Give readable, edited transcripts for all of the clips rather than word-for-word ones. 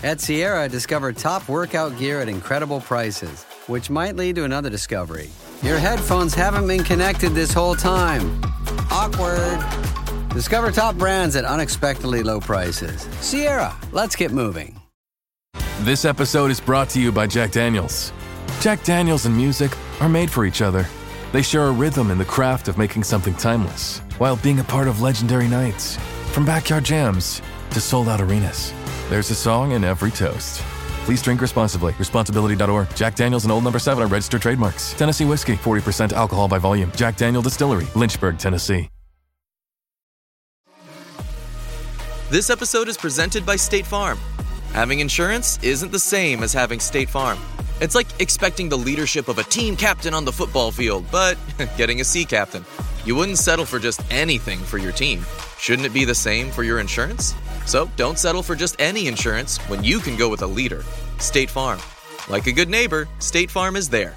At Sierra, discover top workout gear at incredible prices, which might lead to another discovery. Your headphones haven't been connected this whole time. Awkward. Discover top brands at unexpectedly low prices. Sierra, let's get moving. This episode is brought to you by Jack Daniels. Jack Daniels and music are made for each other. They share a rhythm in the craft of making something timeless, while being a part of legendary nights. From backyard jams to sold-out arenas, there's a song in every toast. Please drink responsibly. Responsibility.org. Jack Daniels and Old No. 7 are registered trademarks. Tennessee whiskey, 40% alcohol by volume. Jack Daniel Distillery, Lynchburg, Tennessee. This episode is presented by State Farm. Having insurance isn't the same as having State Farm. It's like expecting the leadership of a team captain on the football field, but getting a sea captain. You wouldn't settle for just anything for your team. Shouldn't it be the same for your insurance? So don't settle for just any insurance when you can go with a leader. State Farm. Like a good neighbor, State Farm is there.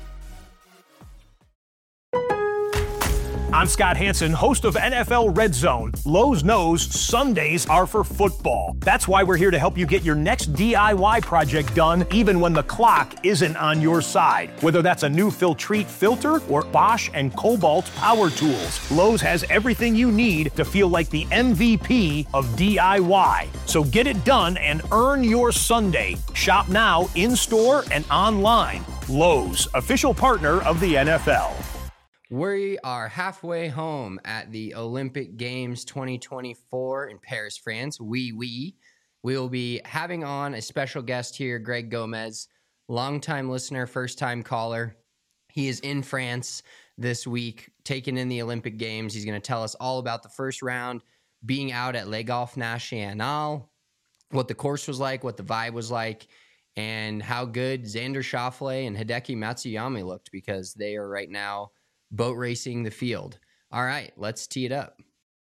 I'm Scott Hansen, host of NFL Red Zone. Lowe's knows Sundays are for football. That's why we're here to help you get your next DIY project done, even when the clock isn't on your side. Whether that's a new Filtrete filter or Bosch and Cobalt power tools, Lowe's has everything you need to feel like the MVP of DIY. So get it done and earn your Sunday. Shop now, in-store and online. Lowe's, official partner of the NFL. We are halfway home at the Olympic Games 2024 in Paris, France. We will be having on a special guest here, Greg Gomez, longtime listener, first-time caller. He is in France this week, taking in the Olympic Games. He's going to tell us all about the first round, being out at Le Golf National, what the course was like, what the vibe was like, and how good Xander Schauffele and Hideki Matsuyama looked, because they are right now boat racing the field. All right, let's tee it up.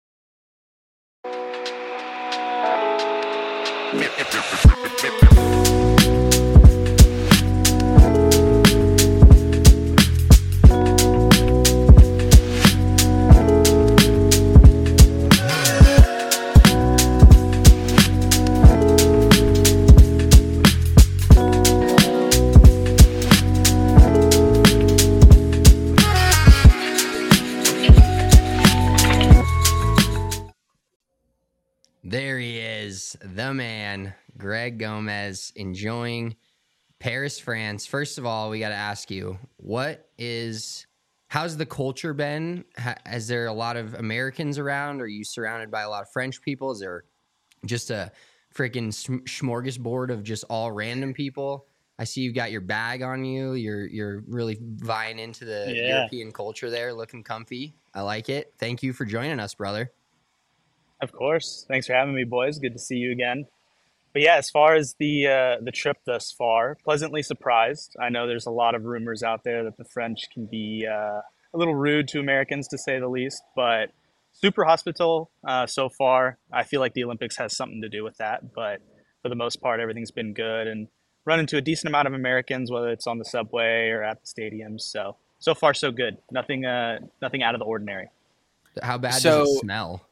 There he is, the man, Greg Gomez, enjoying Paris, France. First of all, we got to ask you, how's the culture been? Is there a lot of Americans around? Are you surrounded by a lot of French people? Is there just a freaking smorgasbord of just all random people? I see you've got your bag on you. You're really vying into the European culture there, looking comfy. I like it. Thank you for joining us, brother. Of course. Thanks for having me, boys. Good to see you again. But yeah, as far as the trip thus far, pleasantly surprised. I know there's a lot of rumors out there that the French can be a little rude to Americans, to say the least, but super hospitable so far. I feel like the Olympics has something to do with that, but for the most part, everything's been good, and run into a decent amount of Americans, whether it's on the subway or at the stadiums. So far, so good. Nothing out of the ordinary. How bad does it smell?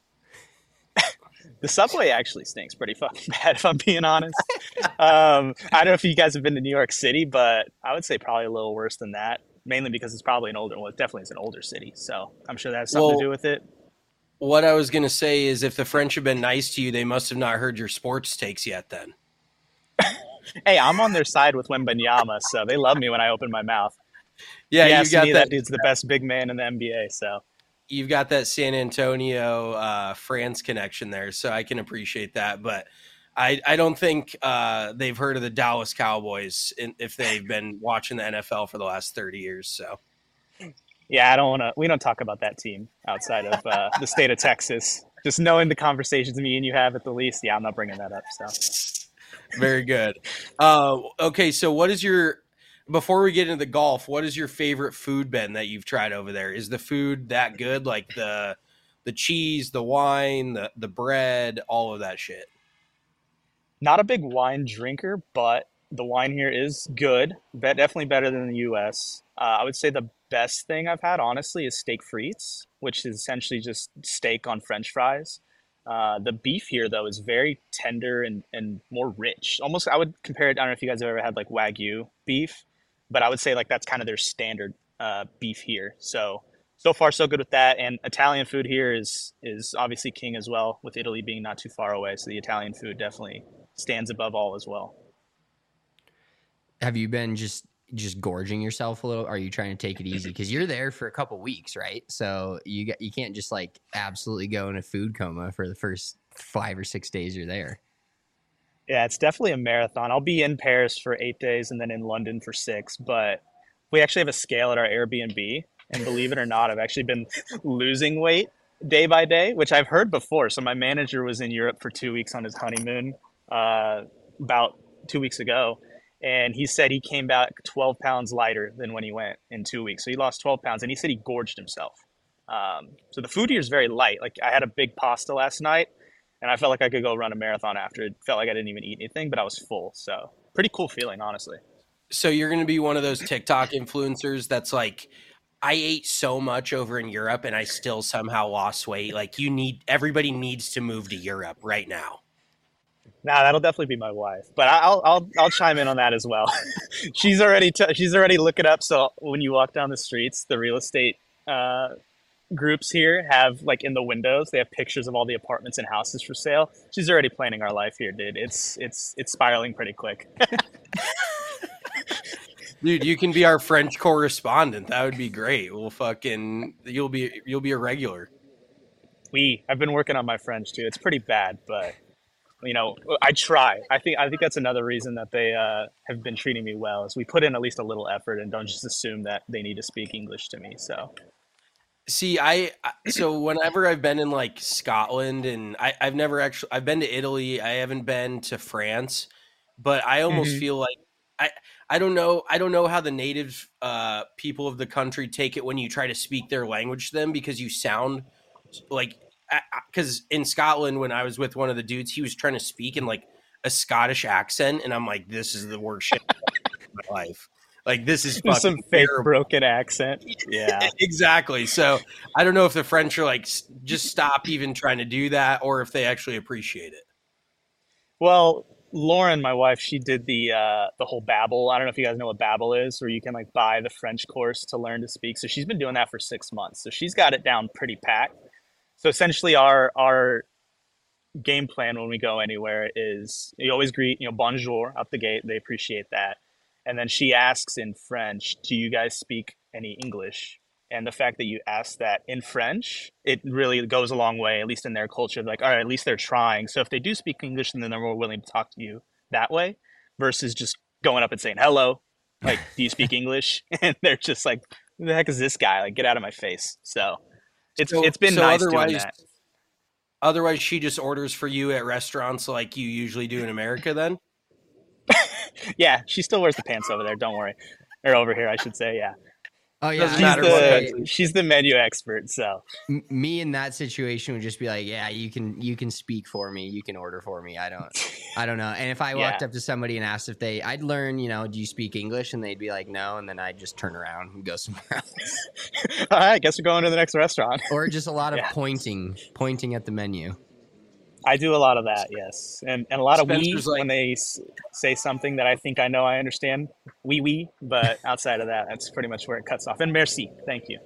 The subway actually stinks pretty fucking bad, if I'm being honest. I don't know if you guys have been to New York City, but I would say probably a little worse than that, mainly because it's probably it definitely is an older city. So I'm sure that has something to do with it. What I was going to say is if the French have been nice to you, they must have not heard your sports takes yet then. Hey, I'm on their side with Wembanyama, so they love me when I open my mouth. Yeah, you got that dude's the best big man in the NBA, so. You've got that San Antonio, France connection there, so I can appreciate that. But I don't think they've heard of the Dallas Cowboys if they've been watching the NFL for the last 30 years. So, yeah, we don't talk about that team outside of the state of Texas. Just knowing the conversations me and you have at the least, I'm not bringing that up. So, very good. Okay, so before we get into the golf, what is your favorite food, Ben, that you've tried over there? Is the food that good? Like the cheese, the wine, the bread, all of that shit? Not a big wine drinker, but the wine here is good. Definitely better than the U.S. I would say the best thing I've had, honestly, is steak frites, which is essentially just steak on French fries. The beef here, though, is very tender and more rich. Almost, I would compare it. I don't know if you guys have ever had like Wagyu beef, but I would say like that's kind of their standard beef here. So far so good with that. And Italian food here is obviously king as well, with Italy being not too far away. So the Italian food definitely stands above all as well. Have you been just gorging yourself a little? Are you trying to take it easy? Because you're there for a couple weeks, right? So you can't just like absolutely go in a food coma for the first 5 or 6 days you're there. Yeah, it's definitely a marathon. I'll be in Paris for 8 days and then in London for 6. But we actually have a scale at our Airbnb. And believe it or not, I've actually been losing weight day by day, which I've heard before. So my manager was in Europe for 2 weeks on his honeymoon about 2 weeks ago. And he said he came back 12 pounds lighter than when he went in 2 weeks. So he lost 12 pounds, and he said he gorged himself. So the food here is very light. Like I had a big pasta last night, and I felt like I could go run a marathon after. It felt like I didn't even eat anything, but I was full. So pretty cool feeling, honestly. So you're going to be one of those TikTok influencers that's like, I ate so much over in Europe and I still somehow lost weight. Like everybody needs to move to Europe right now. Nah, that'll definitely be my wife, but I'll chime in on that as well. she's already looking up. So when you walk down the streets, the real estate groups here have like in the windows, they have pictures of all the apartments and houses for sale. She's already planning our life here, dude. It's spiraling pretty quick. Dude, you can be our French correspondent. That would be great. You'll be a regular. I've been working on my French too. It's pretty bad, but I try. I think that's another reason that they have been treating me well is we put in at least a little effort and don't just assume that they need to speak English to me. So, see, so whenever I've been in like Scotland and I've been to Italy. I haven't been to France, but I almost feel like I don't know how the native people of the country take it when you try to speak their language to them, because you sound like, because in Scotland, when I was with one of the dudes, he was trying to speak in like a Scottish accent. And I'm like, this is the worst shit of my life. Like, this is fucking some fake terrible. Broken accent. Yeah, exactly. So I don't know if the French are like, just stop even trying to do that, or if they actually appreciate it. Well, Lauren, my wife, she did the whole Babbel. I don't know if you guys know what Babbel is, where you can like buy the French course to learn to speak. So she's been doing that for 6 months. So she's got it down pretty packed. So essentially our game plan when we go anywhere is you always greet, bonjour out the gate. They appreciate that. And then she asks in French, do you guys speak any English? And the fact that you ask that in French, it really goes a long way, at least in their culture. Like, all right, at least they're trying. So if they do speak English, then they're more willing to talk to you that way versus just going up and saying, hello, like, do you speak English? And they're just like, who the heck is this guy? Like, get out of my face. So it's been nice doing that. Otherwise, she just orders for you at restaurants like you usually do in America then? Yeah, she still wears the pants over there. Don't worry. Or over here, I should say, yeah. Oh yeah, she's the menu expert. So me in that situation would just be like, yeah, you can speak for me, you can order for me. I don't know. And if I walked up to somebody and asked if I'd learn, do you speak English? And they'd be like, no, and then I'd just turn around and go somewhere else. All right, I guess we're going to the next restaurant. Or just a lot of pointing at the menu. I do a lot of that, yes. And a lot Spencer's of when they say something that I think I know I understand, oui, but outside of that, that's pretty much where it cuts off. And merci, thank you.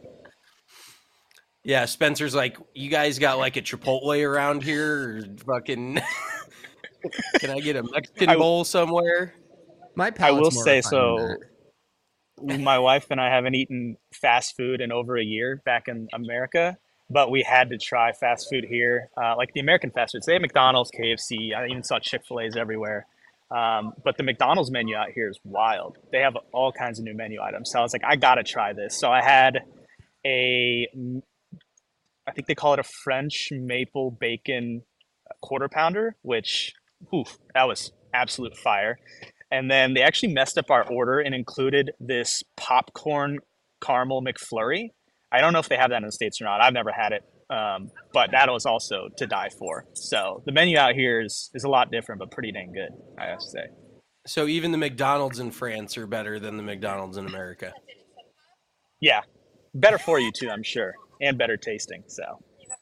Yeah, Spencer's like, you guys got like a Chipotle around here? Or fucking, can I get a Mexican bowl somewhere? I will say so. My wife and I haven't eaten fast food in over a year back in America. But we had to try fast food here, like the American fast foods. They have McDonald's, KFC. I even saw Chick-fil-A's everywhere. But the McDonald's menu out here is wild. They have all kinds of new menu items. So I was like, I got to try this. So I had I think they call it a French maple bacon quarter pounder, which, that was absolute fire. And then they actually messed up our order and included this popcorn caramel McFlurry. I don't know if they have that in the States or not. I've never had it, but that was also to die for. So the menu out here is a lot different, but pretty dang good, I have to say. So even the McDonald's in France are better than the McDonald's in America. Yeah, better for you too, I'm sure, and better tasting. So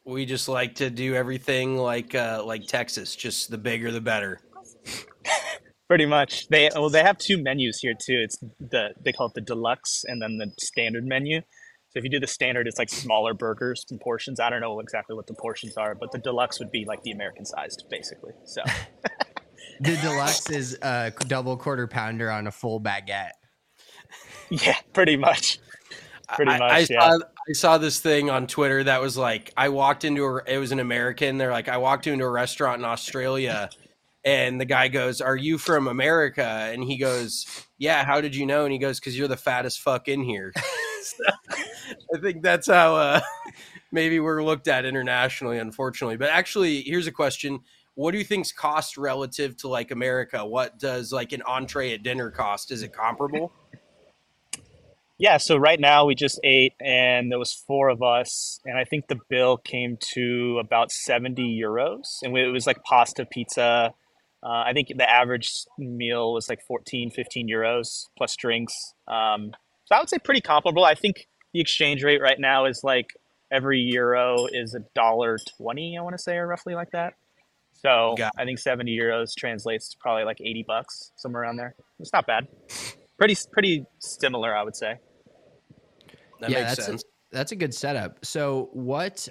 We just like to do everything like Texas, just the bigger the better. Pretty much. They have two menus here too. It's they call it the deluxe and then the standard menu. So if you do the standard, it's like smaller burgers and portions. I don't know exactly what the portions are, but the deluxe would be like the American sized, basically. So The deluxe is a double quarter pounder on a full baguette. yeah, pretty much. I Yeah. saw this thing on Twitter that was like, it was an American. They're like, I walked into a restaurant in Australia and the guy goes, "Are you from America?" And he goes, "Yeah, how did you know?" And he goes, "Because you're the fattest fuck in here." So, I think that's how maybe we're looked at internationally, unfortunately. But actually, here's a question. What do you think's cost relative to like America? What does like an entree at dinner cost? Is it comparable? Yeah, so right now we just ate and there was four of us and I think the bill came to about 70 euros and it was like pasta, pizza. I think the average meal was like 14, 15 euros plus drinks. So I would say pretty comparable. I think the exchange rate right now is like every euro is $1.20, I want to say, or roughly like that. So I think 70 euros translates to probably like $80, somewhere around there. It's not bad. Pretty similar, I would say. That makes sense. That's a good setup. So what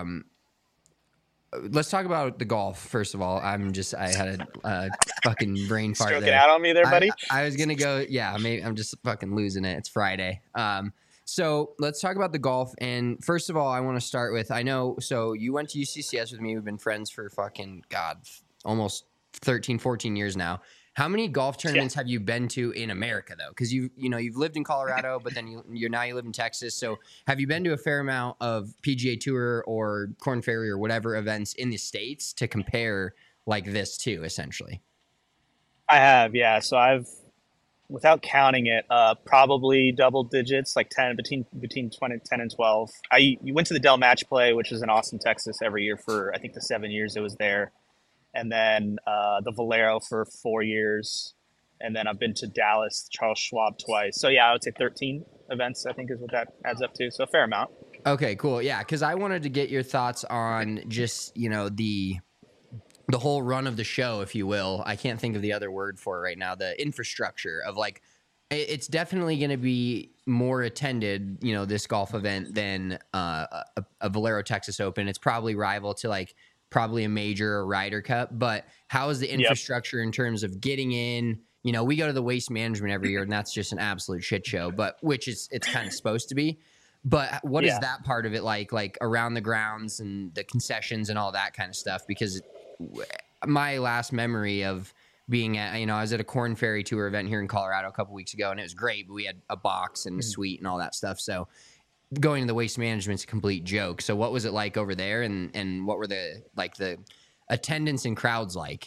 let's talk about the golf first of all. I had a fucking brain fart Stroking there. out on me there, buddy. I was gonna go. Yeah, maybe I'm just fucking losing it. It's Friday. So let's talk about the golf. And first of all, I want to start with, I know, so you went to UCCS with me. We've been friends for fucking, God, almost 13, 14 years now. How many golf tournaments have you been to in America though? Because you've lived in Colorado, but then you live in Texas. So have you been to a fair amount of PGA Tour or Korn Ferry or whatever events in the States to compare like this to, essentially? I have, yeah. So I've, without counting it, probably double digits, like 10 between 20, 10 and 12. You went to the Dell Match Play, which is in Austin, Texas, every year for I think the 7 years it was there. And then the Valero for 4 years. And then I've been to Dallas, Charles Schwab twice. So yeah, I would say 13 events, I think is what that adds up to. So a fair amount. Okay, cool. Yeah, because I wanted to get your thoughts on just, the whole run of the show, if you will. I can't think of the other word for it right now. The infrastructure of like, it's definitely going to be more attended, this golf event than a Valero Texas Open. It's probably rival to like, probably a major or Ryder Cup, but how is the infrastructure in terms of getting in? We go to the Waste Management every year, and that's just an absolute shit show. But it's kind of supposed to be. But what is that part of it like around the grounds and the concessions and all that kind of stuff? Because my last memory of being at, I was at a Korn Ferry Tour event here in Colorado a couple weeks ago, and it was great. But we had a box and a suite and all that stuff. So going to the Waste Management's a complete joke. So what was it like over there, and what were the attendance and crowds like?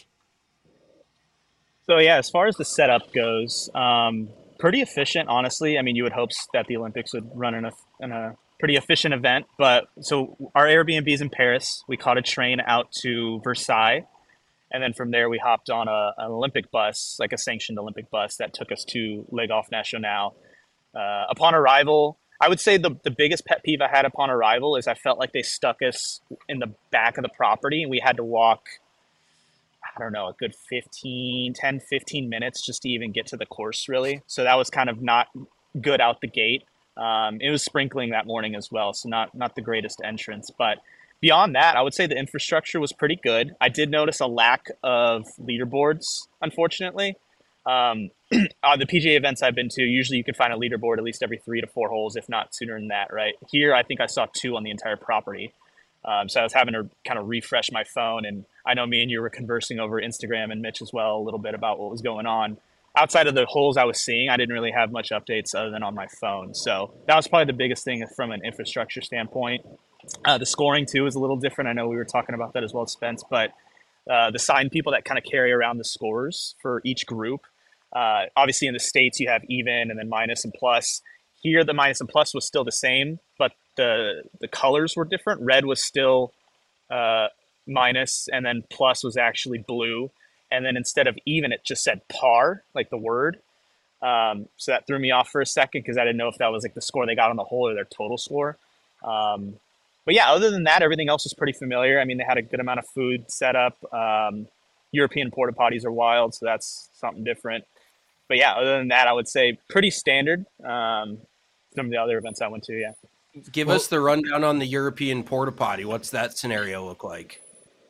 So yeah, as far as the setup goes, pretty efficient, honestly. I mean, you would hope that the Olympics would run in a pretty efficient event. But so our Airbnb is in Paris. We caught a train out to Versailles, and then from there we hopped on an Olympic bus, like a sanctioned Olympic bus that took us to Le Golf National. Upon arrival, I would say the biggest pet peeve I had upon arrival is I felt like they stuck us in the back of the property and we had to walk, I don't know, a good 10, 15 minutes just to even get to the course, really. So that was kind of not good out the gate. It was sprinkling that morning as well, so not the greatest entrance. But beyond that, I would say the infrastructure was pretty good. I did notice a lack of leaderboards, unfortunately. On the PGA events I've been to, usually you can find a leaderboard at least every 3 to 4 holes, if not sooner than that, right? Here, I think I saw 2 on the entire property. So I was having to kind of refresh my phone. And I know me and you were conversing over Instagram and Mitch as well a little bit about what was going on. Outside of the holes I was seeing, I didn't really have much updates other than on my phone. So that was probably the biggest thing from an infrastructure standpoint. The scoring, too, is a little different. I know we were talking about that as well, Spence, but the sign people that kind of carry around the scores for each group. Obviously, in the States, you have even and then minus and plus. Here, the minus and plus was still the same, but the colors were different. Red was still minus, and then plus was actually blue. And then instead of even, it just said par, like the word. So that threw me off for a second because I didn't know if that was like the score they got on the hole or their total score. But But yeah, other than that, everything else was pretty familiar. I mean, they had a good amount of food set up. European porta potties are wild, so that's something different. But yeah, other than that, I would say pretty standard from the other events I went to. Yeah. Give us the rundown on the European porta potty. What's that scenario look like?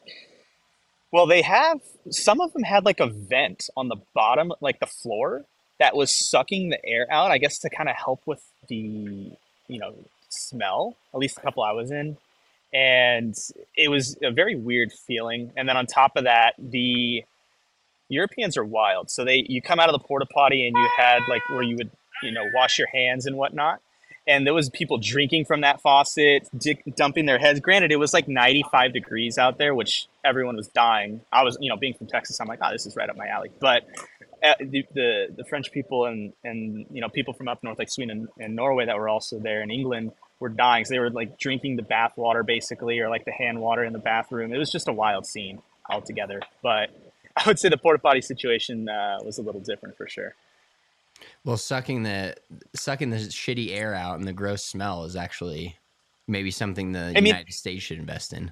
Well, some of them had like a vent on the bottom, like the floor, that was sucking the air out, I guess to kind of help with the, smell, at least a couple I was in. And it was a very weird feeling. And then on top of that, the Europeans are wild. So you come out of the porta potty and you had like where you would, wash your hands and whatnot. And there was people drinking from that faucet, dumping their heads. Granted, it was like 95 degrees out there, which everyone was dying. I was, being from Texas, I'm like, oh, this is right up my alley. But the French people and people from up north, like Sweden and Norway, that were also there in England, were dying. So they were like drinking the bath water basically, or like the hand water in the bathroom. It was just a wild scene altogether. But I would say the porta potty situation was a little different for sure. Well, sucking the shitty air out and the gross smell is actually maybe something the United States should invest in.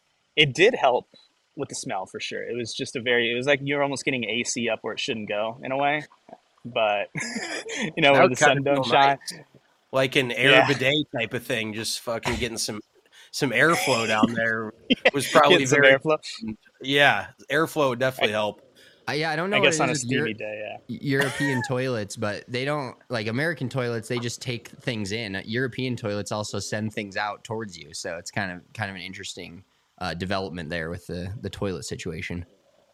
It did help with the smell for sure. It was just it was like you're almost getting AC up where it shouldn't go in a way. But where the sun don't shine. Nice. Like an air bidet type of thing, just fucking getting some airflow down there was probably very airflow. Yeah, airflow would definitely help. I don't know. I guess on a steamy day, European toilets, but they don't like American toilets. They just take things in. European toilets also send things out towards you, so it's kind of an interesting development there with the toilet situation.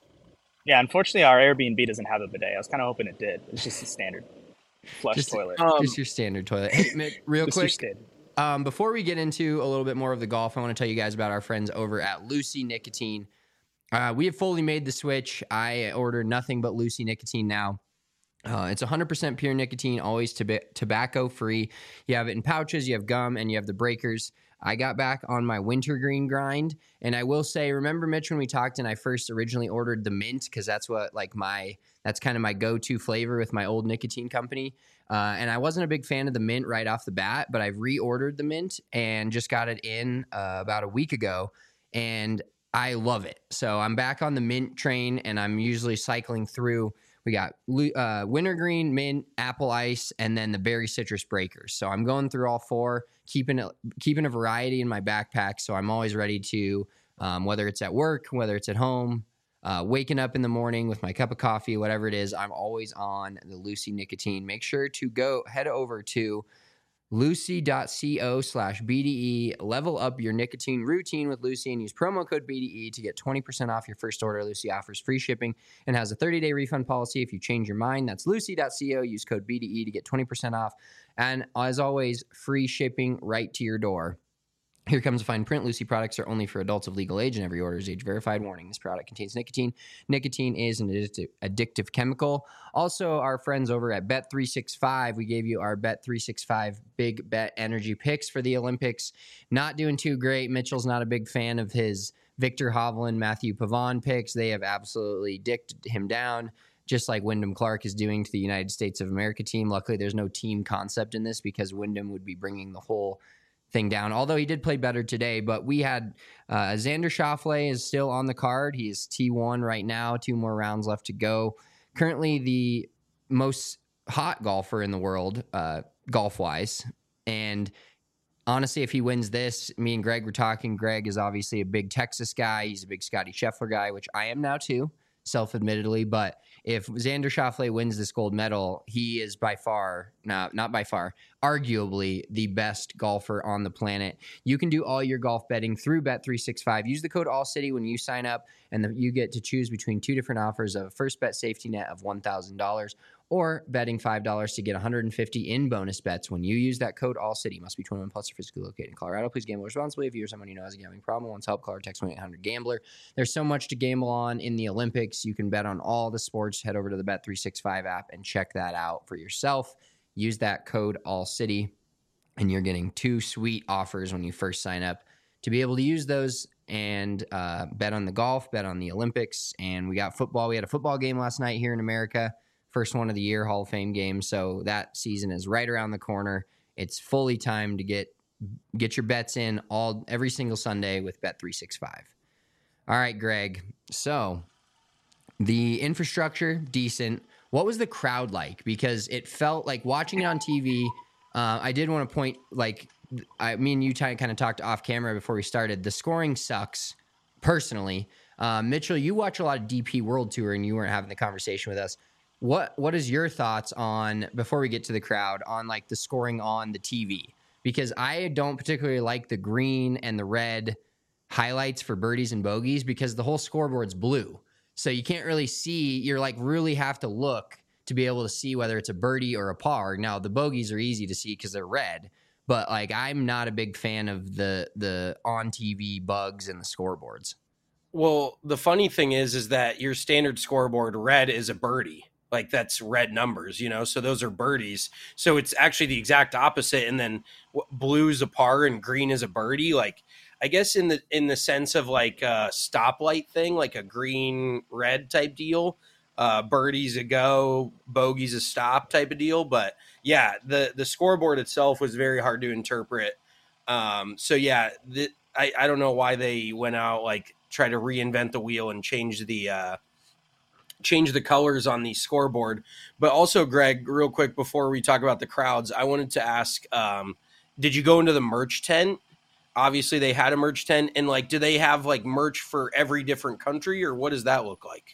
Yeah, unfortunately, our Airbnb doesn't have a bidet. I was kind of hoping it did. It's just a standard flush toilet. Just your standard toilet. Hey, Mick, real quick. Before we get into a little bit more of the golf, I want to tell you guys about our friends over at Lucy Nicotine. We have fully made the switch. I order nothing but Lucy Nicotine now. It's 100% pure nicotine, always tobacco-free. You have it in pouches, you have gum, and you have the breakers. I got back on my wintergreen grind, and I will say, remember, Mitch, when we talked and I first originally ordered the mint, because that's what that's kind of my go-to flavor with my old nicotine company. And I wasn't a big fan of the mint right off the bat, but I've reordered the mint and just got it in about a week ago, and I love it. So I'm back on the mint train, and I'm usually cycling through. We got wintergreen, mint, apple ice, and then the berry citrus breakers. So I'm going through all four, keeping a variety in my backpack. So I'm always ready to, whether it's at work, whether it's at home, waking up in the morning with my cup of coffee, whatever it is, I'm always on the Lucy Nicotine. Make sure to head over to lucy.co/BDE. Level up your nicotine routine with Lucy and use promo code BDE to get 20% off your first order. Lucy offers free shipping and has a 30-day refund policy if you change your mind. That's lucy.co. Use code BDE to get 20% off. And as always, free shipping right to your door. Here comes a fine print. Lucy products are only for adults of legal age, and every order is age-verified. Warning, this product contains nicotine. Nicotine is an addictive chemical. Also, our friends over at Bet365, we gave you our Bet365 big bet energy picks for the Olympics. Not doing too great. Mitchell's not a big fan of his Victor Hovland, Matthew Pavon picks. They have absolutely dicked him down, just like Wyndham Clark is doing to the United States of America team. Luckily, there's no team concept in this because Wyndham would be bringing the whole thing down, although he did play better today. But we had Xander Schauffele is still on the card. He is T1 right now, 2 more rounds left to go. Currently the most hot golfer in the world, golf-wise. And honestly, if he wins this, me and Greg were talking. Greg is obviously a big Texas guy. He's a big Scotty Scheffler guy, which I am now too, self-admittedly. But if Xander Schauffele wins this gold medal, he is by far, not by far, arguably the best golfer on the planet. You can do all your golf betting through Bet365. Use the code ALLCITY when you sign up, and you get to choose between 2 different offers of a first bet safety net of $1,000 or betting $5 to get $150 in bonus bets when you use that code ALLCITY. Must be 21 plus or physically located in Colorado. Please gamble responsibly. If you're someone you know has a gambling problem, wants help, call or text 1-800-GAMBLER. There's so much to gamble on in the Olympics. You can bet on all the sports. Head over to the Bet365 app and check that out for yourself. Use that code ALLCITY, and you're getting 2 sweet offers when you first sign up to be able to use those and bet on the golf, bet on the Olympics. And we got football. We had a football game last night here in America. First one of the year, Hall of Fame game. So that season is right around the corner. It's fully time to get Get your bets in every single Sunday with Bet365. All right, Greg. So the infrastructure, decent. What was the crowd like? Because it felt like watching it on TV. I did want to point, like, me and you kind of talked off camera before we started. The scoring sucks, personally. Mitchell, you watch a lot of DP World Tour, and you weren't having the conversation with us. What is your thoughts on, before we get to the crowd, on like the scoring on the TV? Because I don't particularly like the green and the red highlights for birdies and bogeys because the whole scoreboard's blue. So you can't really see. You're like really have to look to be able to see whether it's a birdie or a par. Now, the bogeys are easy to see because they're red. But like, I'm not a big fan of the on TV bugs and the scoreboards. Well, the funny thing is that your standard scoreboard red is a birdie. Like that's red numbers, you know, so those are birdies. So it's actually the exact opposite. And then blue is a par and green is a birdie. Like, I guess in the sense of like a stoplight thing, like a green red type deal, birdies a go, bogeys a stop type of deal. But yeah, the scoreboard itself was very hard to interpret. So yeah, I don't know why they went out, like try to reinvent the wheel and change the colors on the scoreboard. But also, Greg, real quick before we talk about the crowds, I wanted to ask, did you go into the merch tent? Obviously they had a merch tent, and like, do they have like merch for every different country, or what does that look like?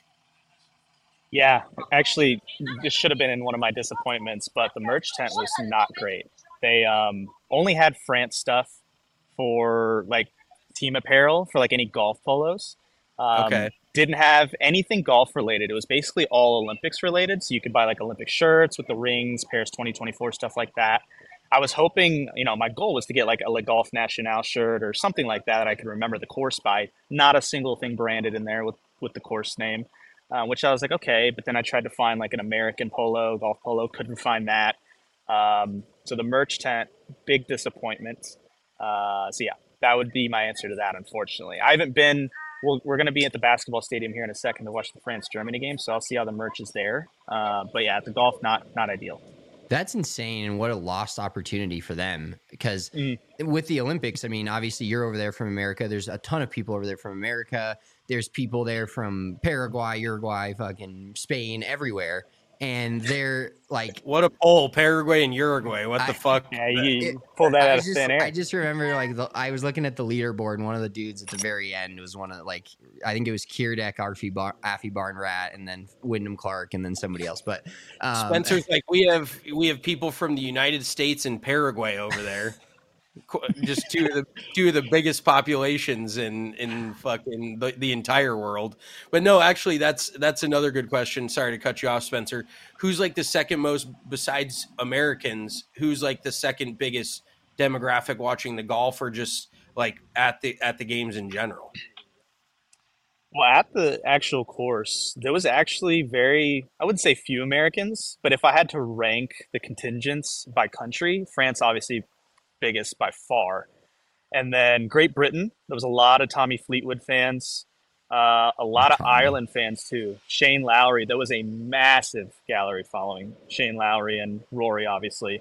Yeah, actually, this should have been in one of my disappointments, but the merch tent was not great. They only had France stuff for like team apparel for like any golf polos. Okay. Didn't have anything golf related. It was basically all Olympics related. So you could buy like Olympic shirts with the rings, Paris 2024, stuff like that. I was hoping, my goal was to get like a Le Golf National shirt or something like that I could remember the course by. Not a single thing branded in there with the course name, which I was like, okay. But then I tried to find like an American polo, golf polo, couldn't find that. So the merch tent, big disappointment. So yeah, that would be my answer to that, unfortunately. I haven't been... We're going to be at the basketball stadium here in a second to watch the France-Germany game, so I'll see how the merch is there. But yeah, at the golf, not ideal. That's insane, and what a lost opportunity for them. Because with the Olympics, I mean, obviously you're over there from America. There's a ton of people over there from America. There's people there from Paraguay, Uruguay, fucking Spain, everywhere. And they're like... What a poll, Paraguay and Uruguay. What the fuck? Yeah, you pulled that out of thin air. I just remember, like, I was looking at the leaderboard, and one of the dudes at the very end was one of, like, I think it was Kierdek, Affie Barnrat, and then Wyndham Clark, and then somebody else. But Spencer's like, we have people from the United States and Paraguay over there. Just two of the biggest populations in fucking the entire world. But no, actually, that's another good question. Sorry to cut you off, Spencer. Who's like the second most, besides Americans, who's like the second biggest demographic watching the golf, or just like at the games in general? Well, at the actual course, there was actually I wouldn't say few Americans, but if I had to rank the contingents by country, France obviously biggest by far. And then Great Britain, there was a lot of Tommy Fleetwood fans, a lot of Ireland fans too. Shane Lowry, there was a massive gallery following Shane Lowry and Rory, obviously.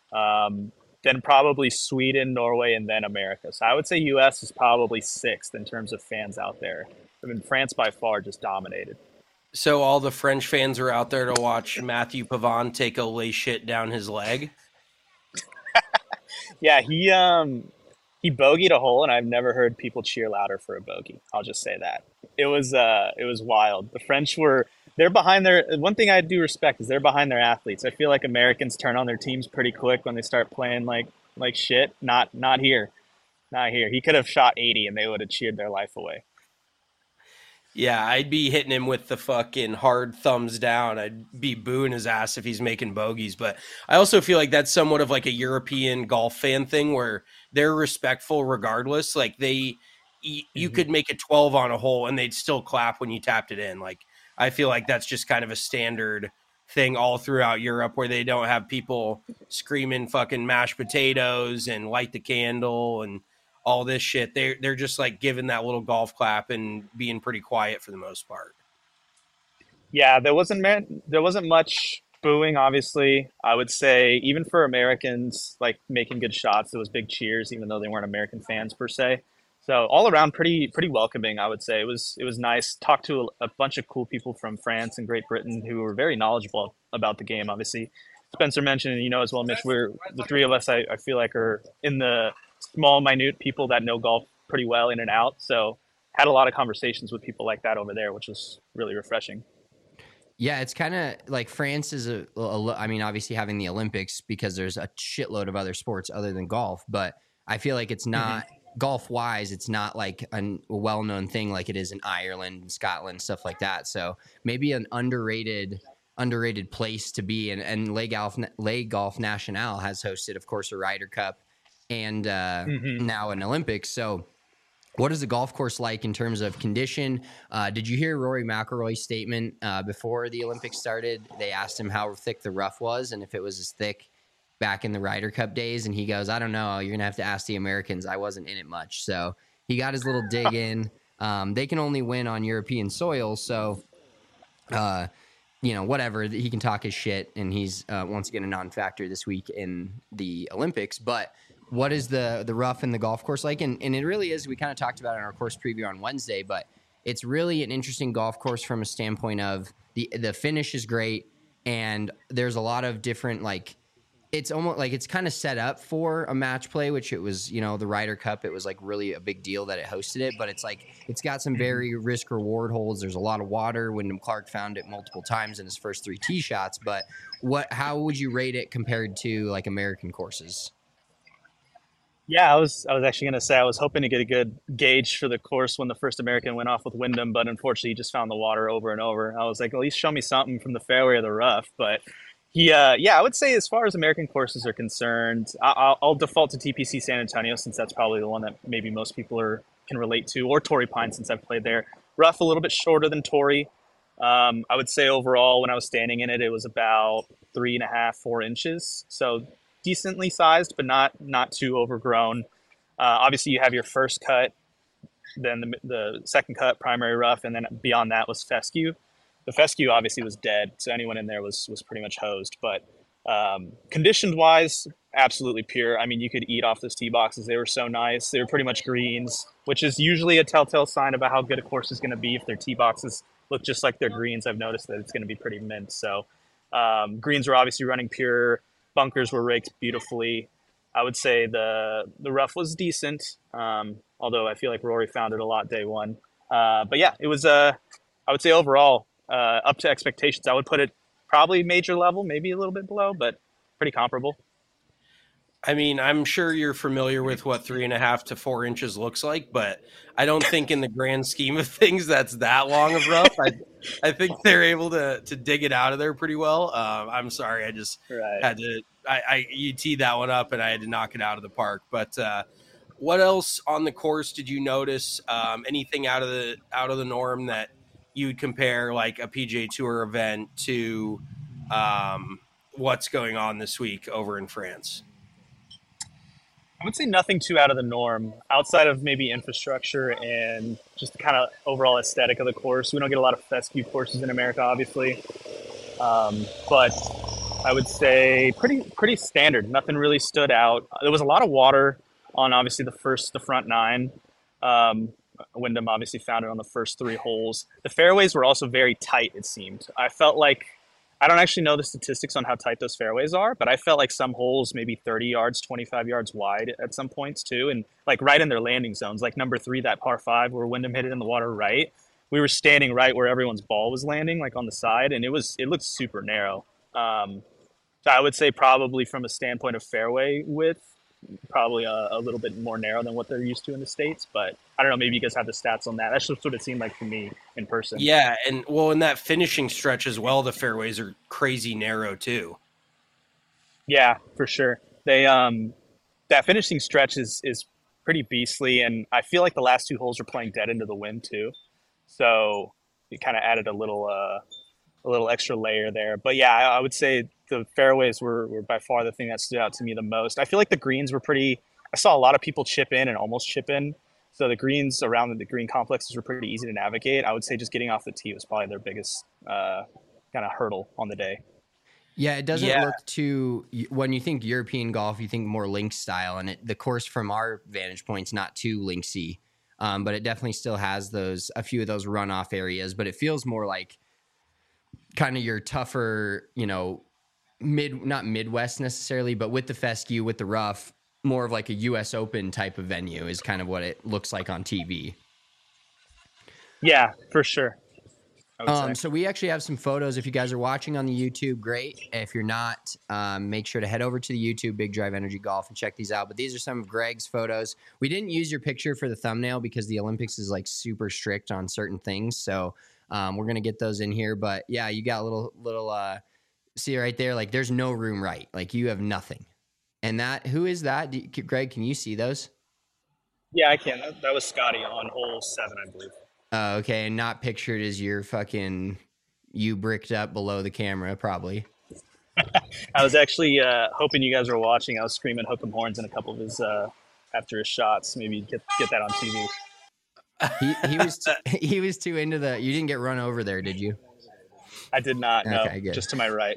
Then probably Sweden, Norway, and then America. So I would say US is probably sixth in terms of fans out there. I mean, France by far just dominated. So all the French fans are out there to watch Matthew Pavon take a lay shit down his leg? Yeah, he bogeyed a hole, and I've never heard people cheer louder for a bogey. I'll just say that. It was wild. The French they're behind one thing I do respect is they're behind their athletes. I feel like Americans turn on their teams pretty quick when they start playing like shit. Not here. Not here. He could have shot 80 and they would have cheered their life away. Yeah, I'd be hitting him with the fucking hard thumbs down. I'd be booing his ass if he's making bogeys. But I also feel like that's somewhat of like a European golf fan thing where they're respectful regardless. Like you could make a 12 on a hole and they'd still clap when you tapped it in. Like, I feel like that's just kind of a standard thing all throughout Europe where they don't have people screaming fucking mashed potatoes and light the candle and all this shit. They're just like giving that little golf clap and being pretty quiet for the most part. Yeah, there wasn't much booing, obviously. I would say even for Americans, like making good shots, there was big cheers, even though they weren't American fans per se. So all around, pretty welcoming. I would say it was nice. Talked to a bunch of cool people from France and Great Britain who were very knowledgeable about the game. Obviously, Spencer mentioned, and you know as well, Mitch. We're the three of us. I feel like are in the small, minute people that know golf pretty well in and out. So had a lot of conversations with people like that over there, which was really refreshing. Yeah, it's kind of like France is I mean, obviously having the Olympics because there's a shitload of other sports other than golf, but I feel like it's not golf wise. It's not like a well-known thing like it is in Ireland, Scotland, stuff like that. So maybe an underrated place to be. And Le Golf National has hosted, of course, a Ryder Cup and now an Olympics. So what is the golf course like in terms of condition? Did you hear Rory McIlroy's statement before the Olympics started? They asked him how thick the rough was and if it was as thick back in the Ryder Cup days. And he goes, I don't know. You're going to have to ask the Americans. I wasn't in it much. So he got his little dig in. They can only win on European soil. So, whatever. He can talk his shit. And he's, once again, a non-factor this week in the Olympics. But what is the rough in the golf course like? And it really is, we kind of talked about it in our course preview on Wednesday, but it's really an interesting golf course from a standpoint of the finish is great. And there's a lot of different, like, it's almost like it's kind of set up for a match play, which it was, the Ryder Cup. It was like really a big deal that it hosted it, but it's like, it's got some very risk reward holes. There's a lot of water. Wyndham Clark found it multiple times in his first 3 tee shots, but how would you rate it compared to like American courses? Yeah, I was actually going to say I was hoping to get a good gauge for the course when the first American went off with Wyndham, but unfortunately he just found the water over and over. I was like, at least show me something from the fairway or the rough. But I would say as far as American courses are concerned, I'll default to TPC San Antonio since that's probably the one that maybe most people can relate to, or Torrey Pines since I've played there. Rough a little bit shorter than Torrey. I would say overall when I was standing in it, it was about 3.5, 4 inches. So decently sized, but not too overgrown. Obviously, you have your first cut, then the second cut, primary rough, and then beyond that was fescue. The fescue obviously was dead, so anyone in there was pretty much hosed. But condition-wise, absolutely pure. I mean, you could eat off those tee boxes. They were so nice. They were pretty much greens, which is usually a telltale sign about how good a course is going to be. If their tee boxes look just like their greens, I've noticed that it's going to be pretty mint. So greens were obviously running pure. Bunkers were raked beautifully. I would say the rough was decent, although I feel like Rory found it a lot day one. But yeah, it was, I would say overall, up to expectations. I would put it probably major level, maybe a little bit below, but pretty comparable. I mean, I'm sure you're familiar with what 3.5 to 4 inches looks like, but I don't think in the grand scheme of things that's that long of rough. I think they're able to dig it out of there pretty well. I'm sorry, I just had to. You teed that one up, and I had to knock it out of the park. But what else on the course did you notice? Anything out of the norm that you would compare like a PGA Tour event to what's going on this week over in France? I would say nothing too out of the norm outside of maybe infrastructure and just the kind of overall aesthetic of the course. We don't get a lot of fescue courses in America, obviously. But I would say pretty standard. Nothing really stood out. There was a lot of water on obviously the front 9. Wyndham obviously found it on the first 3 holes. The fairways were also very tight, it seemed. I felt like, I don't actually know the statistics on how tight those fairways are, but I felt like some holes maybe 30 yards, 25 yards wide at some points too. And like right in their landing zones, like number 3, that par 5 where Wyndham hit it in the water right. We were standing right where everyone's ball was landing, like on the side, and it looked super narrow. So I would say probably from a standpoint of fairway width, probably a little bit more narrow than what they're used to in the States. But I don't know, maybe you guys have the stats on that. That's just what it seemed like to me in person. Yeah, and well, in that finishing stretch as well, the fairways are crazy narrow too. Yeah, for sure. They that finishing stretch is pretty beastly, and I feel like the last 2 holes were playing dead into the wind too. So it kind of added a little extra layer there. But yeah, I would say the fairways were by far the thing that stood out to me the most. I feel like the greens were I saw a lot of people chip in and almost chip in. So the greens around the green complexes were pretty easy to navigate. I would say just getting off the tee was probably their biggest kind of hurdle on the day. Yeah, it doesn't look too. When you think European golf, you think more links style, and the course from our vantage point's not too linksy, but it definitely still has a few of those runoff areas. But it feels more like kind of your tougher, not Midwest necessarily, but with the fescue, with the rough, more of like a U.S. Open type of venue is kind of what it looks like on TV. Yeah, for sure. So we actually have some photos. If you guys are watching on the YouTube, great. If you're not, make sure to head over to the YouTube Big Drive Energy Golf and check these out. But these are some of Greg's photos. We didn't use your picture for the thumbnail because the Olympics is like super strict on certain things. So we're going to get those in here. But yeah, you got a little see right there, like there's no room right. Like you have nothing. And who is that? Greg, can you see those? Yeah, I can. That was Scotty on hole 7, I believe. Okay, and not pictured as your you bricked up below the camera, probably. I was actually hoping you guys were watching. I was screaming "Hook 'em horns" in a couple of his after his shots. Maybe get that on TV. He was too into you didn't get run over there, did you? I did not. No, okay, good. Just to my right.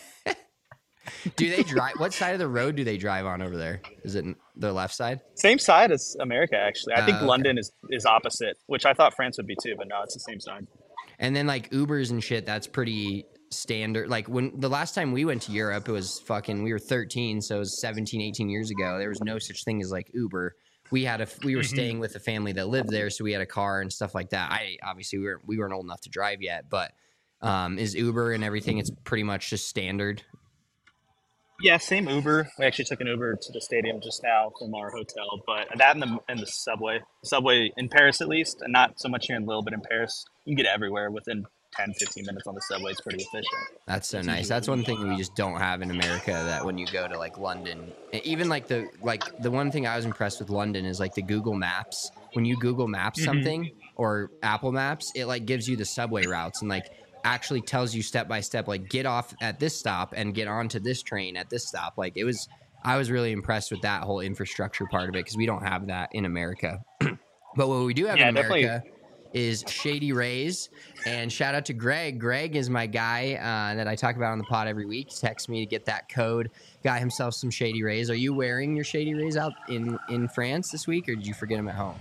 Do they drive? What side of the road do they drive on over there? Is it the left side? Same side as America, actually. I think London is opposite, which I thought France would be too, but no, it's the same side. And then like Ubers and shit, that's pretty standard. Like when the last time we went to Europe, it was we were 13, so it was 17, 18 years ago. There was no such thing as like Uber. We were staying with a family that lived there, so we had a car and stuff like that. Obviously we weren't old enough to drive yet, but is Uber and everything, it's pretty much just standard. Yeah, same Uber. We actually took an Uber to the stadium just now from our hotel, but that and the subway in Paris at least, and not so much here in Lille, but in Paris, you can get everywhere within 10, 15 minutes on the subway. It's pretty efficient. That's so nice. That's one thing we just don't have in America, that when you go to like London, even like the one thing I was impressed with London is like the Google Maps. When you Google Maps something or Apple Maps, it like gives you the subway routes and like actually tells you step by step, like get off at this stop and get onto this train at this stop. Like I was really impressed with that whole infrastructure part of it because we don't have that in America. But what we do have in America is Shady Rays, and shout out to Greg. Greg is my guy that I talk about on the pod every week. He texts me to get that code. Got himself some Shady Rays. Are you wearing your Shady Rays out in France this week, or did you forget them at home?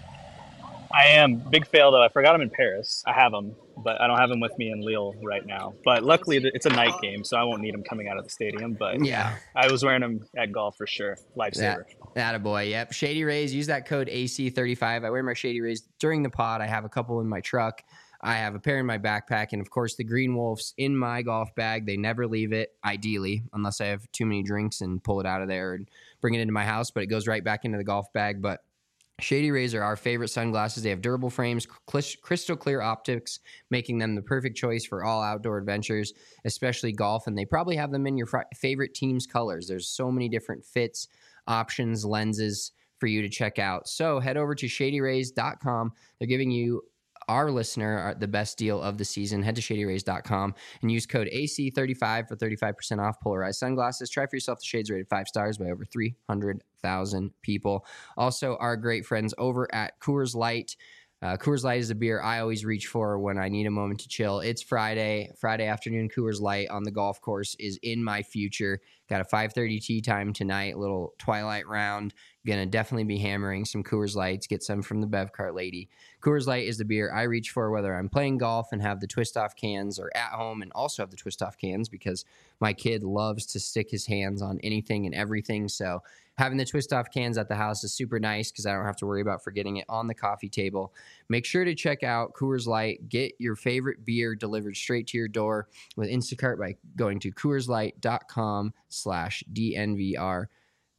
I am. Big fail, though. I forgot them in Paris. I have them, but I don't have them with me in Lille right now. But luckily, it's a night game, so I won't need them coming out of the stadium. But yeah, I was wearing them at golf for sure. Lifesaver. Attaboy. Yep. Shady Rays. Use that code AC35. I wear my Shady Rays during the pod. I have a couple in my truck. I have a pair in my backpack. And, of course, the Green Wolves in my golf bag. They never leave it, ideally, unless I have too many drinks and pull it out of there and bring it into my house. But it goes right back into the golf bag. But Shady Rays are our favorite sunglasses. They have durable frames, crystal clear optics, making them the perfect choice for all outdoor adventures, especially golf. And they probably have them in your favorite team's colors. There's so many different fits, options, lenses for you to check out. So head over to shadyrays.com. They're giving you, our listener, the best deal of the season. Head to shadyrays.com and use code AC35 for 35% off polarized sunglasses. Try for yourself the shades rated 5 stars by over 300,000 people. Also, our great friends over at Coors Light. Coors Light is a beer I always reach for when I need a moment to chill. It's Friday afternoon. Coors Light on the golf course is in my future. Got a 5:30 tee time tonight, a little twilight round. Gonna definitely be hammering some Coors Lights, get some from the Bev Cart lady. Coors Light is the beer I reach for whether I'm playing golf and have the twist-off cans, or at home and also have the twist-off cans because my kid loves to stick his hands on anything and everything. So having the twist-off cans at the house is super nice because I don't have to worry about forgetting it on the coffee table. Make sure to check out Coors Light. Get your favorite beer delivered straight to your door with Instacart by going to CoorsLight.com/DNVR.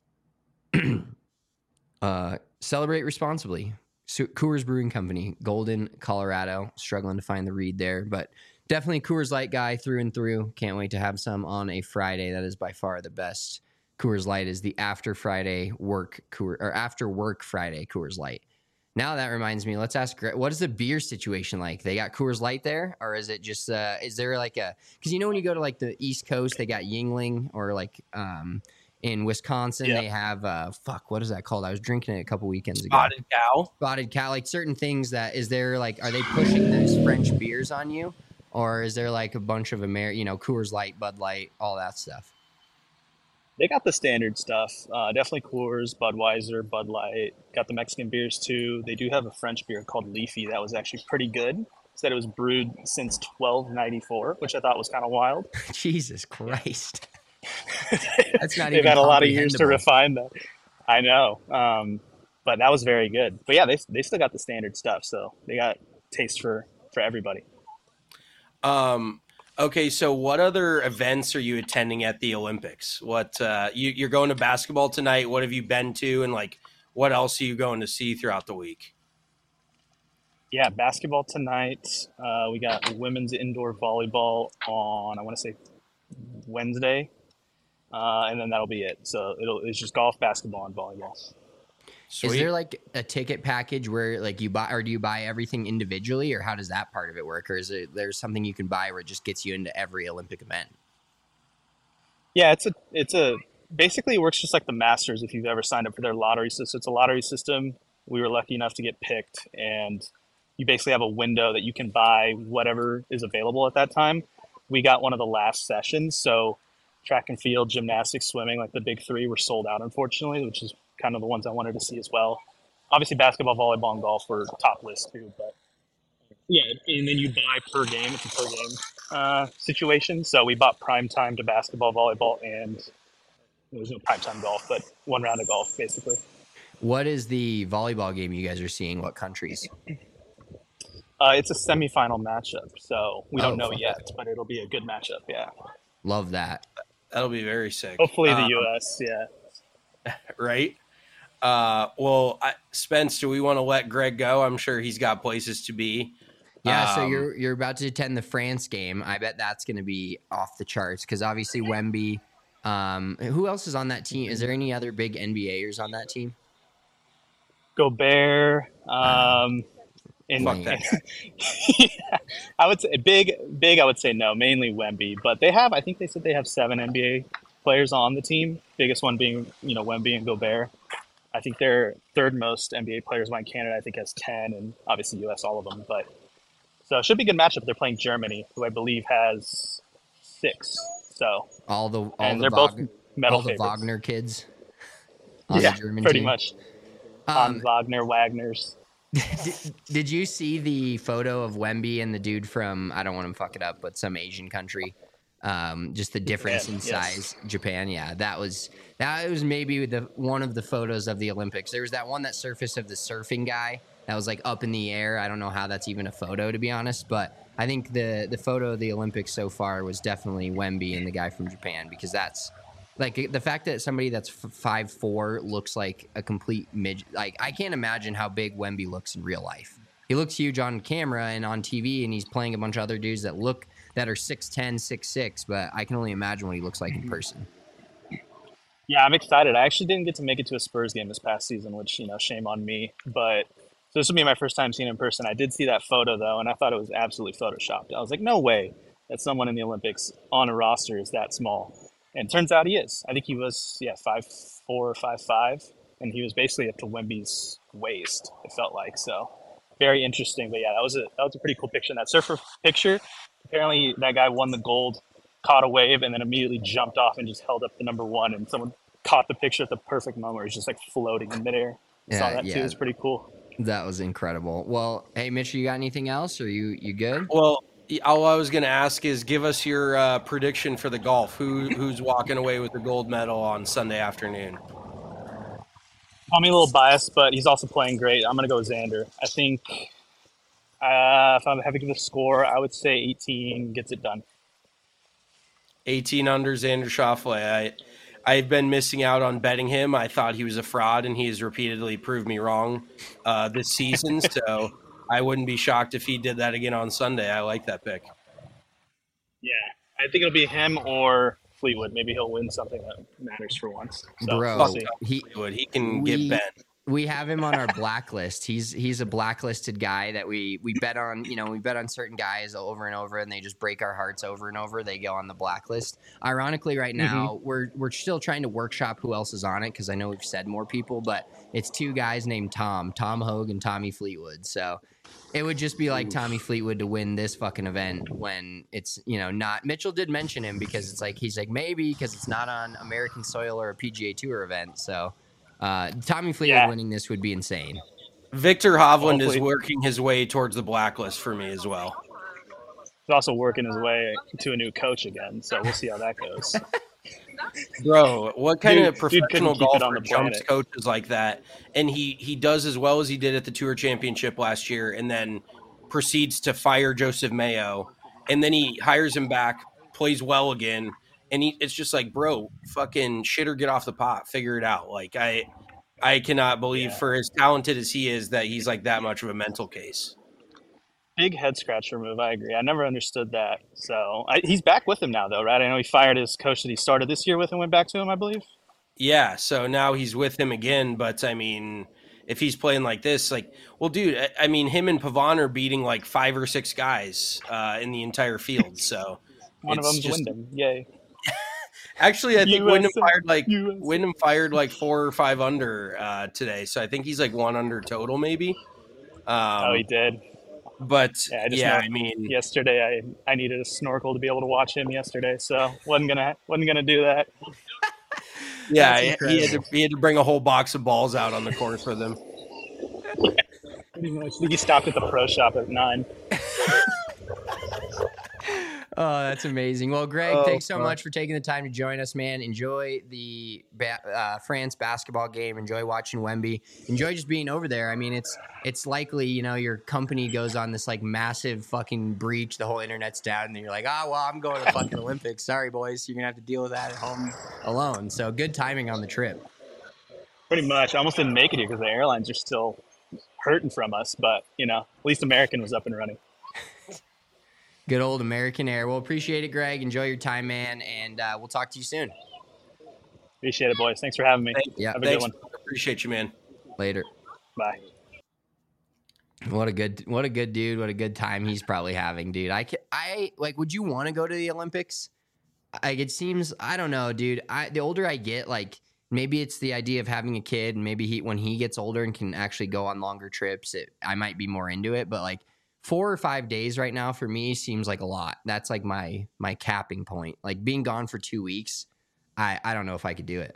Celebrate responsibly. Coors Brewing Company, Golden, Colorado. Struggling to find the read there, but definitely Coors Light guy through and through. Can't wait to have some on a Friday. That is by far the best. Coors Light is the after work Friday Coors Light. Now that reminds me, let's ask Greg, what is the beer situation like? They got Coors Light there, or is it just is there like because when you go to like the East Coast, they got Yuengling, or like in Wisconsin, they have what is that called? I was drinking it a couple weekends ago. Spotted Cow, like certain things that are they pushing those French beers on you? or is there like a bunch of Coors Light, Bud Light, all that stuff? They got the standard stuff. Definitely Coors, Budweiser, Bud Light. Got the Mexican beers too. They do have a French beer called Leafy that was actually pretty good. Said it was brewed since 1294, which I thought was kind of wild. Jesus Christ. That's not They've even had a lot of years to comprehensible. refine that. I know. But that was very good. But yeah, they still got the standard stuff, so they got taste for everybody. Okay, so what other events are you attending at the Olympics? What you're going to basketball tonight? What have you been to, and like what else are you going to see throughout the week? Yeah, basketball tonight. We got women's indoor volleyball on, I want to say, Wednesday, and then that'll be it. So it's just golf, basketball, and volleyball. Sweet. Is there like a ticket package where like you buy, or do you buy everything individually, or how does that part of it work? Or is there's something you can buy where it just gets you into every Olympic event? Yeah, it's a basically it works just like the Masters if you've ever signed up for their lottery system. It's a lottery system. We were lucky enough to get picked, and you basically have a window that you can buy whatever is available at that time. We got one of the last sessions, so track and field, gymnastics, swimming, like the big three were sold out, unfortunately, which is kind of the ones I wanted to see as well. Obviously, basketball, volleyball, and golf were top list too, but yeah, and then you buy per game. It's a per game situation. So we bought prime time to basketball, volleyball, and there was no prime time golf, but one round of golf, basically. What is the volleyball game you guys are seeing? What countries? It's a semifinal matchup, so we don't know fuck. yet, but it'll be a good matchup, yeah. Love that. That'll be very sick. Hopefully the U.S., yeah. Right? Well, Spence, do we want to let Greg go? I'm sure he's got places to be. Yeah, so you're about to attend the France game. I bet that's going to be off the charts because obviously Wemby. Who else is on that team? Is there any other big NBAers on that team? Gobert. And Fuck that guy. yeah, I would say big. I would say no, mainly Wemby, but I think they said they have 7 NBA players on the team. Biggest one being Wemby and Gobert. I think their third most NBA players behind Canada. I think has 10, and obviously US, all of them. But so it should be a good matchup. They're playing Germany, who I believe has 6. So they're both medal all the favorites. Wagner kids. On Yeah, the German pretty team. much. Hans Wagner, Wagners. Did you see the photo of Wemby and the dude from, I don't want to fuck it up, but some Asian country? Just the difference Japan, in size. Japan, yeah. That was maybe one of the photos of the Olympics. There was that one that surfaced of the surfing guy that was like up in the air. I don't know how that's even a photo, to be honest, but I think the photo of the Olympics so far was definitely Wemby and the guy from Japan, because that's like the fact that somebody that's 5'4" looks like a complete midget. Like, I can't imagine how big Wemby looks in real life. He looks huge on camera and on TV, and he's playing a bunch of other dudes that are 6'10", 6'6", but I can only imagine what he looks like in person. Yeah, I'm excited. I actually didn't get to make it to a Spurs game this past season, which, shame on me. But so this will be my first time seeing him in person. I did see that photo, though, and I thought it was absolutely photoshopped. I was like, no way that someone in the Olympics on a roster is that small. And it turns out he is. I think he was, 5'4" or 5'5", and he was basically up to Wemby's waist, it felt like. So very interesting. But yeah, that was a pretty cool picture. And that surfer picture, apparently that guy won the gold, caught a wave, and then immediately jumped off and just held up the number 1. And someone caught the picture at the perfect moment where he's just like floating in midair. Saw that too. It's pretty cool. That was incredible. Well, hey, Mitch, you got anything else? Or you good? Well, all I was going to ask is give us your prediction for the golf. Who's walking away with the gold medal on Sunday afternoon? Call me a little biased, but he's also playing great. I'm going to go with Xander. I think if I'm having to give a score, I would say 18 gets it done. 18 under Xander Schauffele. I've been missing out on betting him. I thought he was a fraud, and he has repeatedly proved me wrong this season. So I wouldn't be shocked if he did that again on Sunday. I like that pick. Yeah, I think it'll be him or Fleetwood. Maybe he'll win something that matters for once. So, Bro, we'll see. He can get bent. We have him on our blacklist. He's a blacklisted guy that we bet on. We bet on certain guys over and over, and they just break our hearts over and over. They go on the blacklist. Ironically, right now we're still trying to workshop who else is on it, because I know we've said more people, but it's two guys named Tom Hogue and Tommy Fleetwood. So it would just be like Tommy Fleetwood to win this fucking event when it's not. Mitchell did mention him because it's like he's like maybe because it's not on American soil or a PGA Tour event. So. Tommy Fleetwood winning this would be insane. Victor Hovland is working his way towards the blacklist for me as well. He's also working his way to a new coach again, so we'll see how that goes. Bro, what kind of professional golfer jumps planet. coaches like that? And he does as well as he did at the Tour Championship last year, and then proceeds to fire Joseph Mayo, and then he hires him back, plays well again. And it's just like, bro, fucking shit or get off the pot. Figure it out. Like, I cannot believe for as talented as he is that he's like that much of a mental case. Big head scratcher move. I agree. I never understood that. So he's back with him now, though, right? I know he fired his coach that he started this year with and went back to him, I believe. Yeah, so now he's with him again. But, I mean, if he's playing like this, like, well, dude, I mean, him and Pavon are beating like 5 or 6 guys in the entire field. So one of them's Wyndham. Yay. Actually, I think Wyndham fired like 4 or 5 under today, so I think he's like 1 under total, maybe. He did. But I mean, yesterday I needed a snorkel to be able to watch him yesterday, so wasn't gonna do that. Yeah, he had to bring a whole box of balls out on the course with him. Pretty much. I think he stopped at the pro shop at 9. Oh, that's amazing. Well, Greg, thanks so much for taking the time to join us, man. Enjoy the France basketball game. Enjoy watching Wemby. Enjoy just being over there. I mean, it's likely, your company goes on this like massive fucking breach. The whole internet's down, and you're like, I'm going to the fucking Olympics. Sorry, boys. You're going to have to deal with that at home alone. So good timing on the trip. Pretty much. I almost didn't make it here because the airlines are still hurting from us. But, at least American was up and running. Good old American Air. Well, appreciate it, Greg. Enjoy your time, man, and we'll talk to you soon. Appreciate it, boys. Thanks for having me. Have a good one. Appreciate you, man. Later. Bye. What a good dude. What a good time he's probably having, dude. I would you want to go to the Olympics? Like, it seems, I don't know, dude. The older I get, like, maybe it's the idea of having a kid, and maybe when he gets older and can actually go on longer trips, I might be more into it, but like 4 or 5 days right now for me seems like a lot. That's like my capping point. Like being gone for 2 weeks, I don't know if I could do it.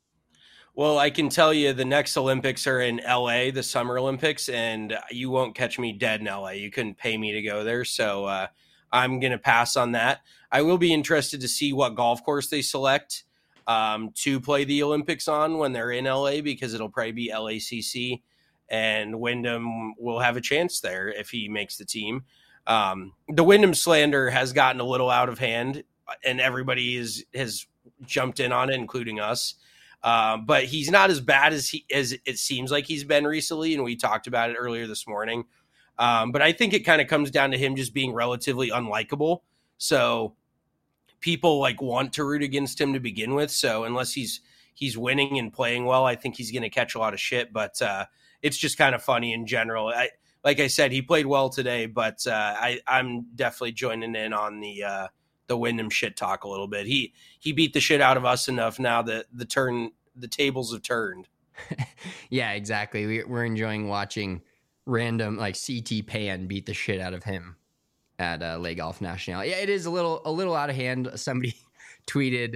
Well, I can tell you the next Olympics are in LA, the Summer Olympics, and you won't catch me dead in LA. You couldn't pay me to go there, so I'm going to pass on that. I will be interested to see what golf course they select to play the Olympics on when they're in LA, because it'll probably be LACC. And Wyndham will have a chance there if he makes the team. The Wyndham slander has gotten a little out of hand, and everybody has jumped in on it, including us. But he's not as bad as it seems like he's been recently, and we talked about it earlier this morning. But I think it kind of comes down to him just being relatively unlikable. So people like want to root against him to begin with. So unless he's winning and playing well, I think he's going to catch a lot of shit. But it's just kind of funny in general. Like I said, he played well today, but I'm definitely joining in on the Wyndham shit talk a little bit. He beat the shit out of us enough now that the tables have turned. Yeah, exactly. We're enjoying watching random like CT Pan beat the shit out of him at Le Golf National. Yeah, it is a little out of hand. Somebody tweeted,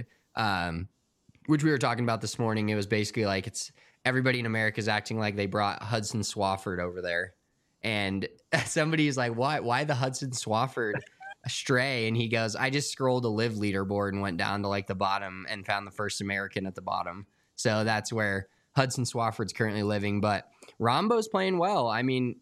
which we were talking about this morning. It was basically like everybody in America is acting like they brought Hudson Swafford over there. And somebody's like, why the Hudson Swafford stray? And he goes, I just scrolled a live leaderboard and went down to like the bottom and found the first American at the bottom. So that's where Hudson Swafford's currently living. But Rombo's playing well. I mean,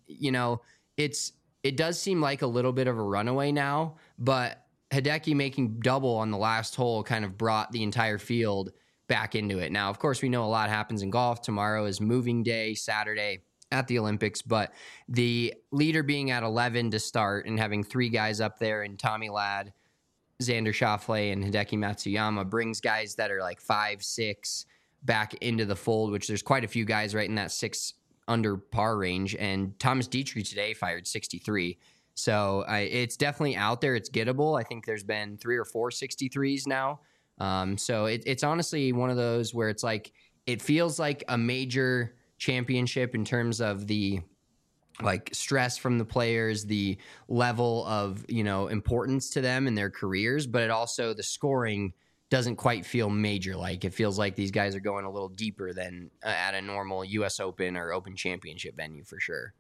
it does seem like a little bit of a runaway now, but Hideki making double on the last hole kind of brought the entire field back into it. Now, of course, we know a lot happens in golf. Tomorrow is moving day, Saturday at the Olympics, but the leader being at 11 to start and having 3 guys up there and Tommy Ladd, Xander Schauffele, and Hideki Matsuyama brings guys that are like 5, 6 back into the fold, which there's quite a few guys right in that 6 under par range. And Thomas Dietrich today fired 63. So it's definitely out there. It's gettable. I think there's been 3 or 4 63s now. So it's honestly one of those where it's like, it feels like a major championship in terms of the like stress from the players, the level of, importance to them in their careers, but it also, the scoring doesn't quite feel major. Like it feels like these guys are going a little deeper than at a normal US Open or Open Championship venue for sure.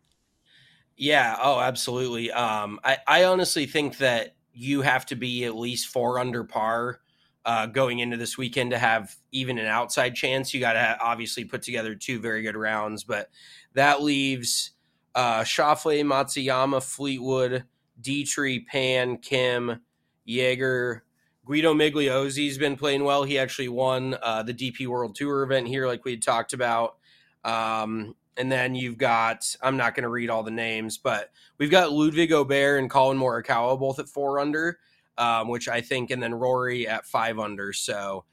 Yeah. Oh, absolutely. I honestly think that you have to be at least 4 under par going into this weekend to have even an outside chance. You got to obviously put together 2 very good rounds, but that leaves Schauffele, Matsuyama, Fleetwood, Dietrich, Pan, Kim, Jaeger. Guido Migliozzi's been playing well. He actually won the DP World Tour event here, like we had talked about. And then you've got, I'm not going to read all the names, but we've got Ludwig Aubert and Colin Morikawa both at 4 under. Which I think, and then Rory at 5 under. So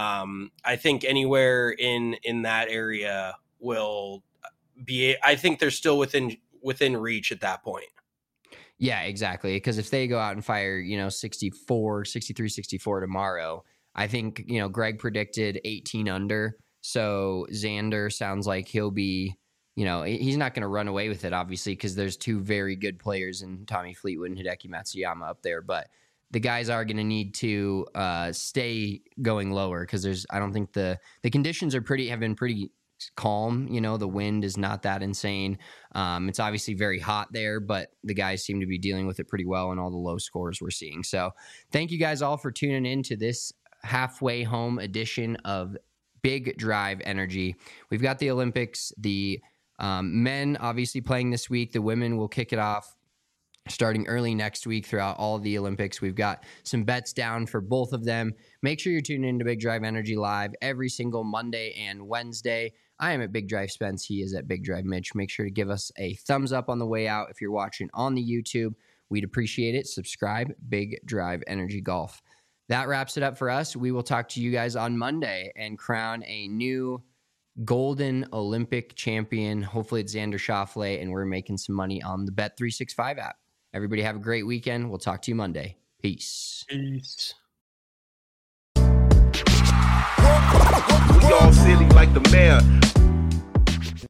I think anywhere in that area will be, I think they're still within reach at that point. Yeah, exactly. Because if they go out and fire, 63, 64 tomorrow, I think, Greg predicted 18 under. So Xander sounds like he'll be, he's not going to run away with it, obviously, because there's 2 very good players in Tommy Fleetwood and Hideki Matsuyama up there. But the guys are going to need to stay going lower because I don't think the conditions have been pretty calm. The wind is not that insane. It's obviously very hot there, but the guys seem to be dealing with it pretty well in all the low scores we're seeing. So thank you guys all for tuning in to this halfway home edition of Big Drive Energy. We've got the Olympics, the men obviously playing this week. The women will kick it off starting early next week throughout all of the Olympics. We've got some bets down for both of them. Make sure you're tuning into Big Drive Energy Live every single Monday and Wednesday. I am at Big Drive Spence. He is at Big Drive Mitch. Make sure to give us a thumbs up on the way out if you're watching on the YouTube. We'd appreciate it. Subscribe, Big Drive Energy Golf. That wraps it up for us. We will talk to you guys on Monday and crown a new golden Olympic champion. Hopefully it's Xander Schauffele, and we're making some money on the Bet365 app. Everybody have a great weekend. We'll talk to you Monday. Peace. Peace. We all silly like the mayor.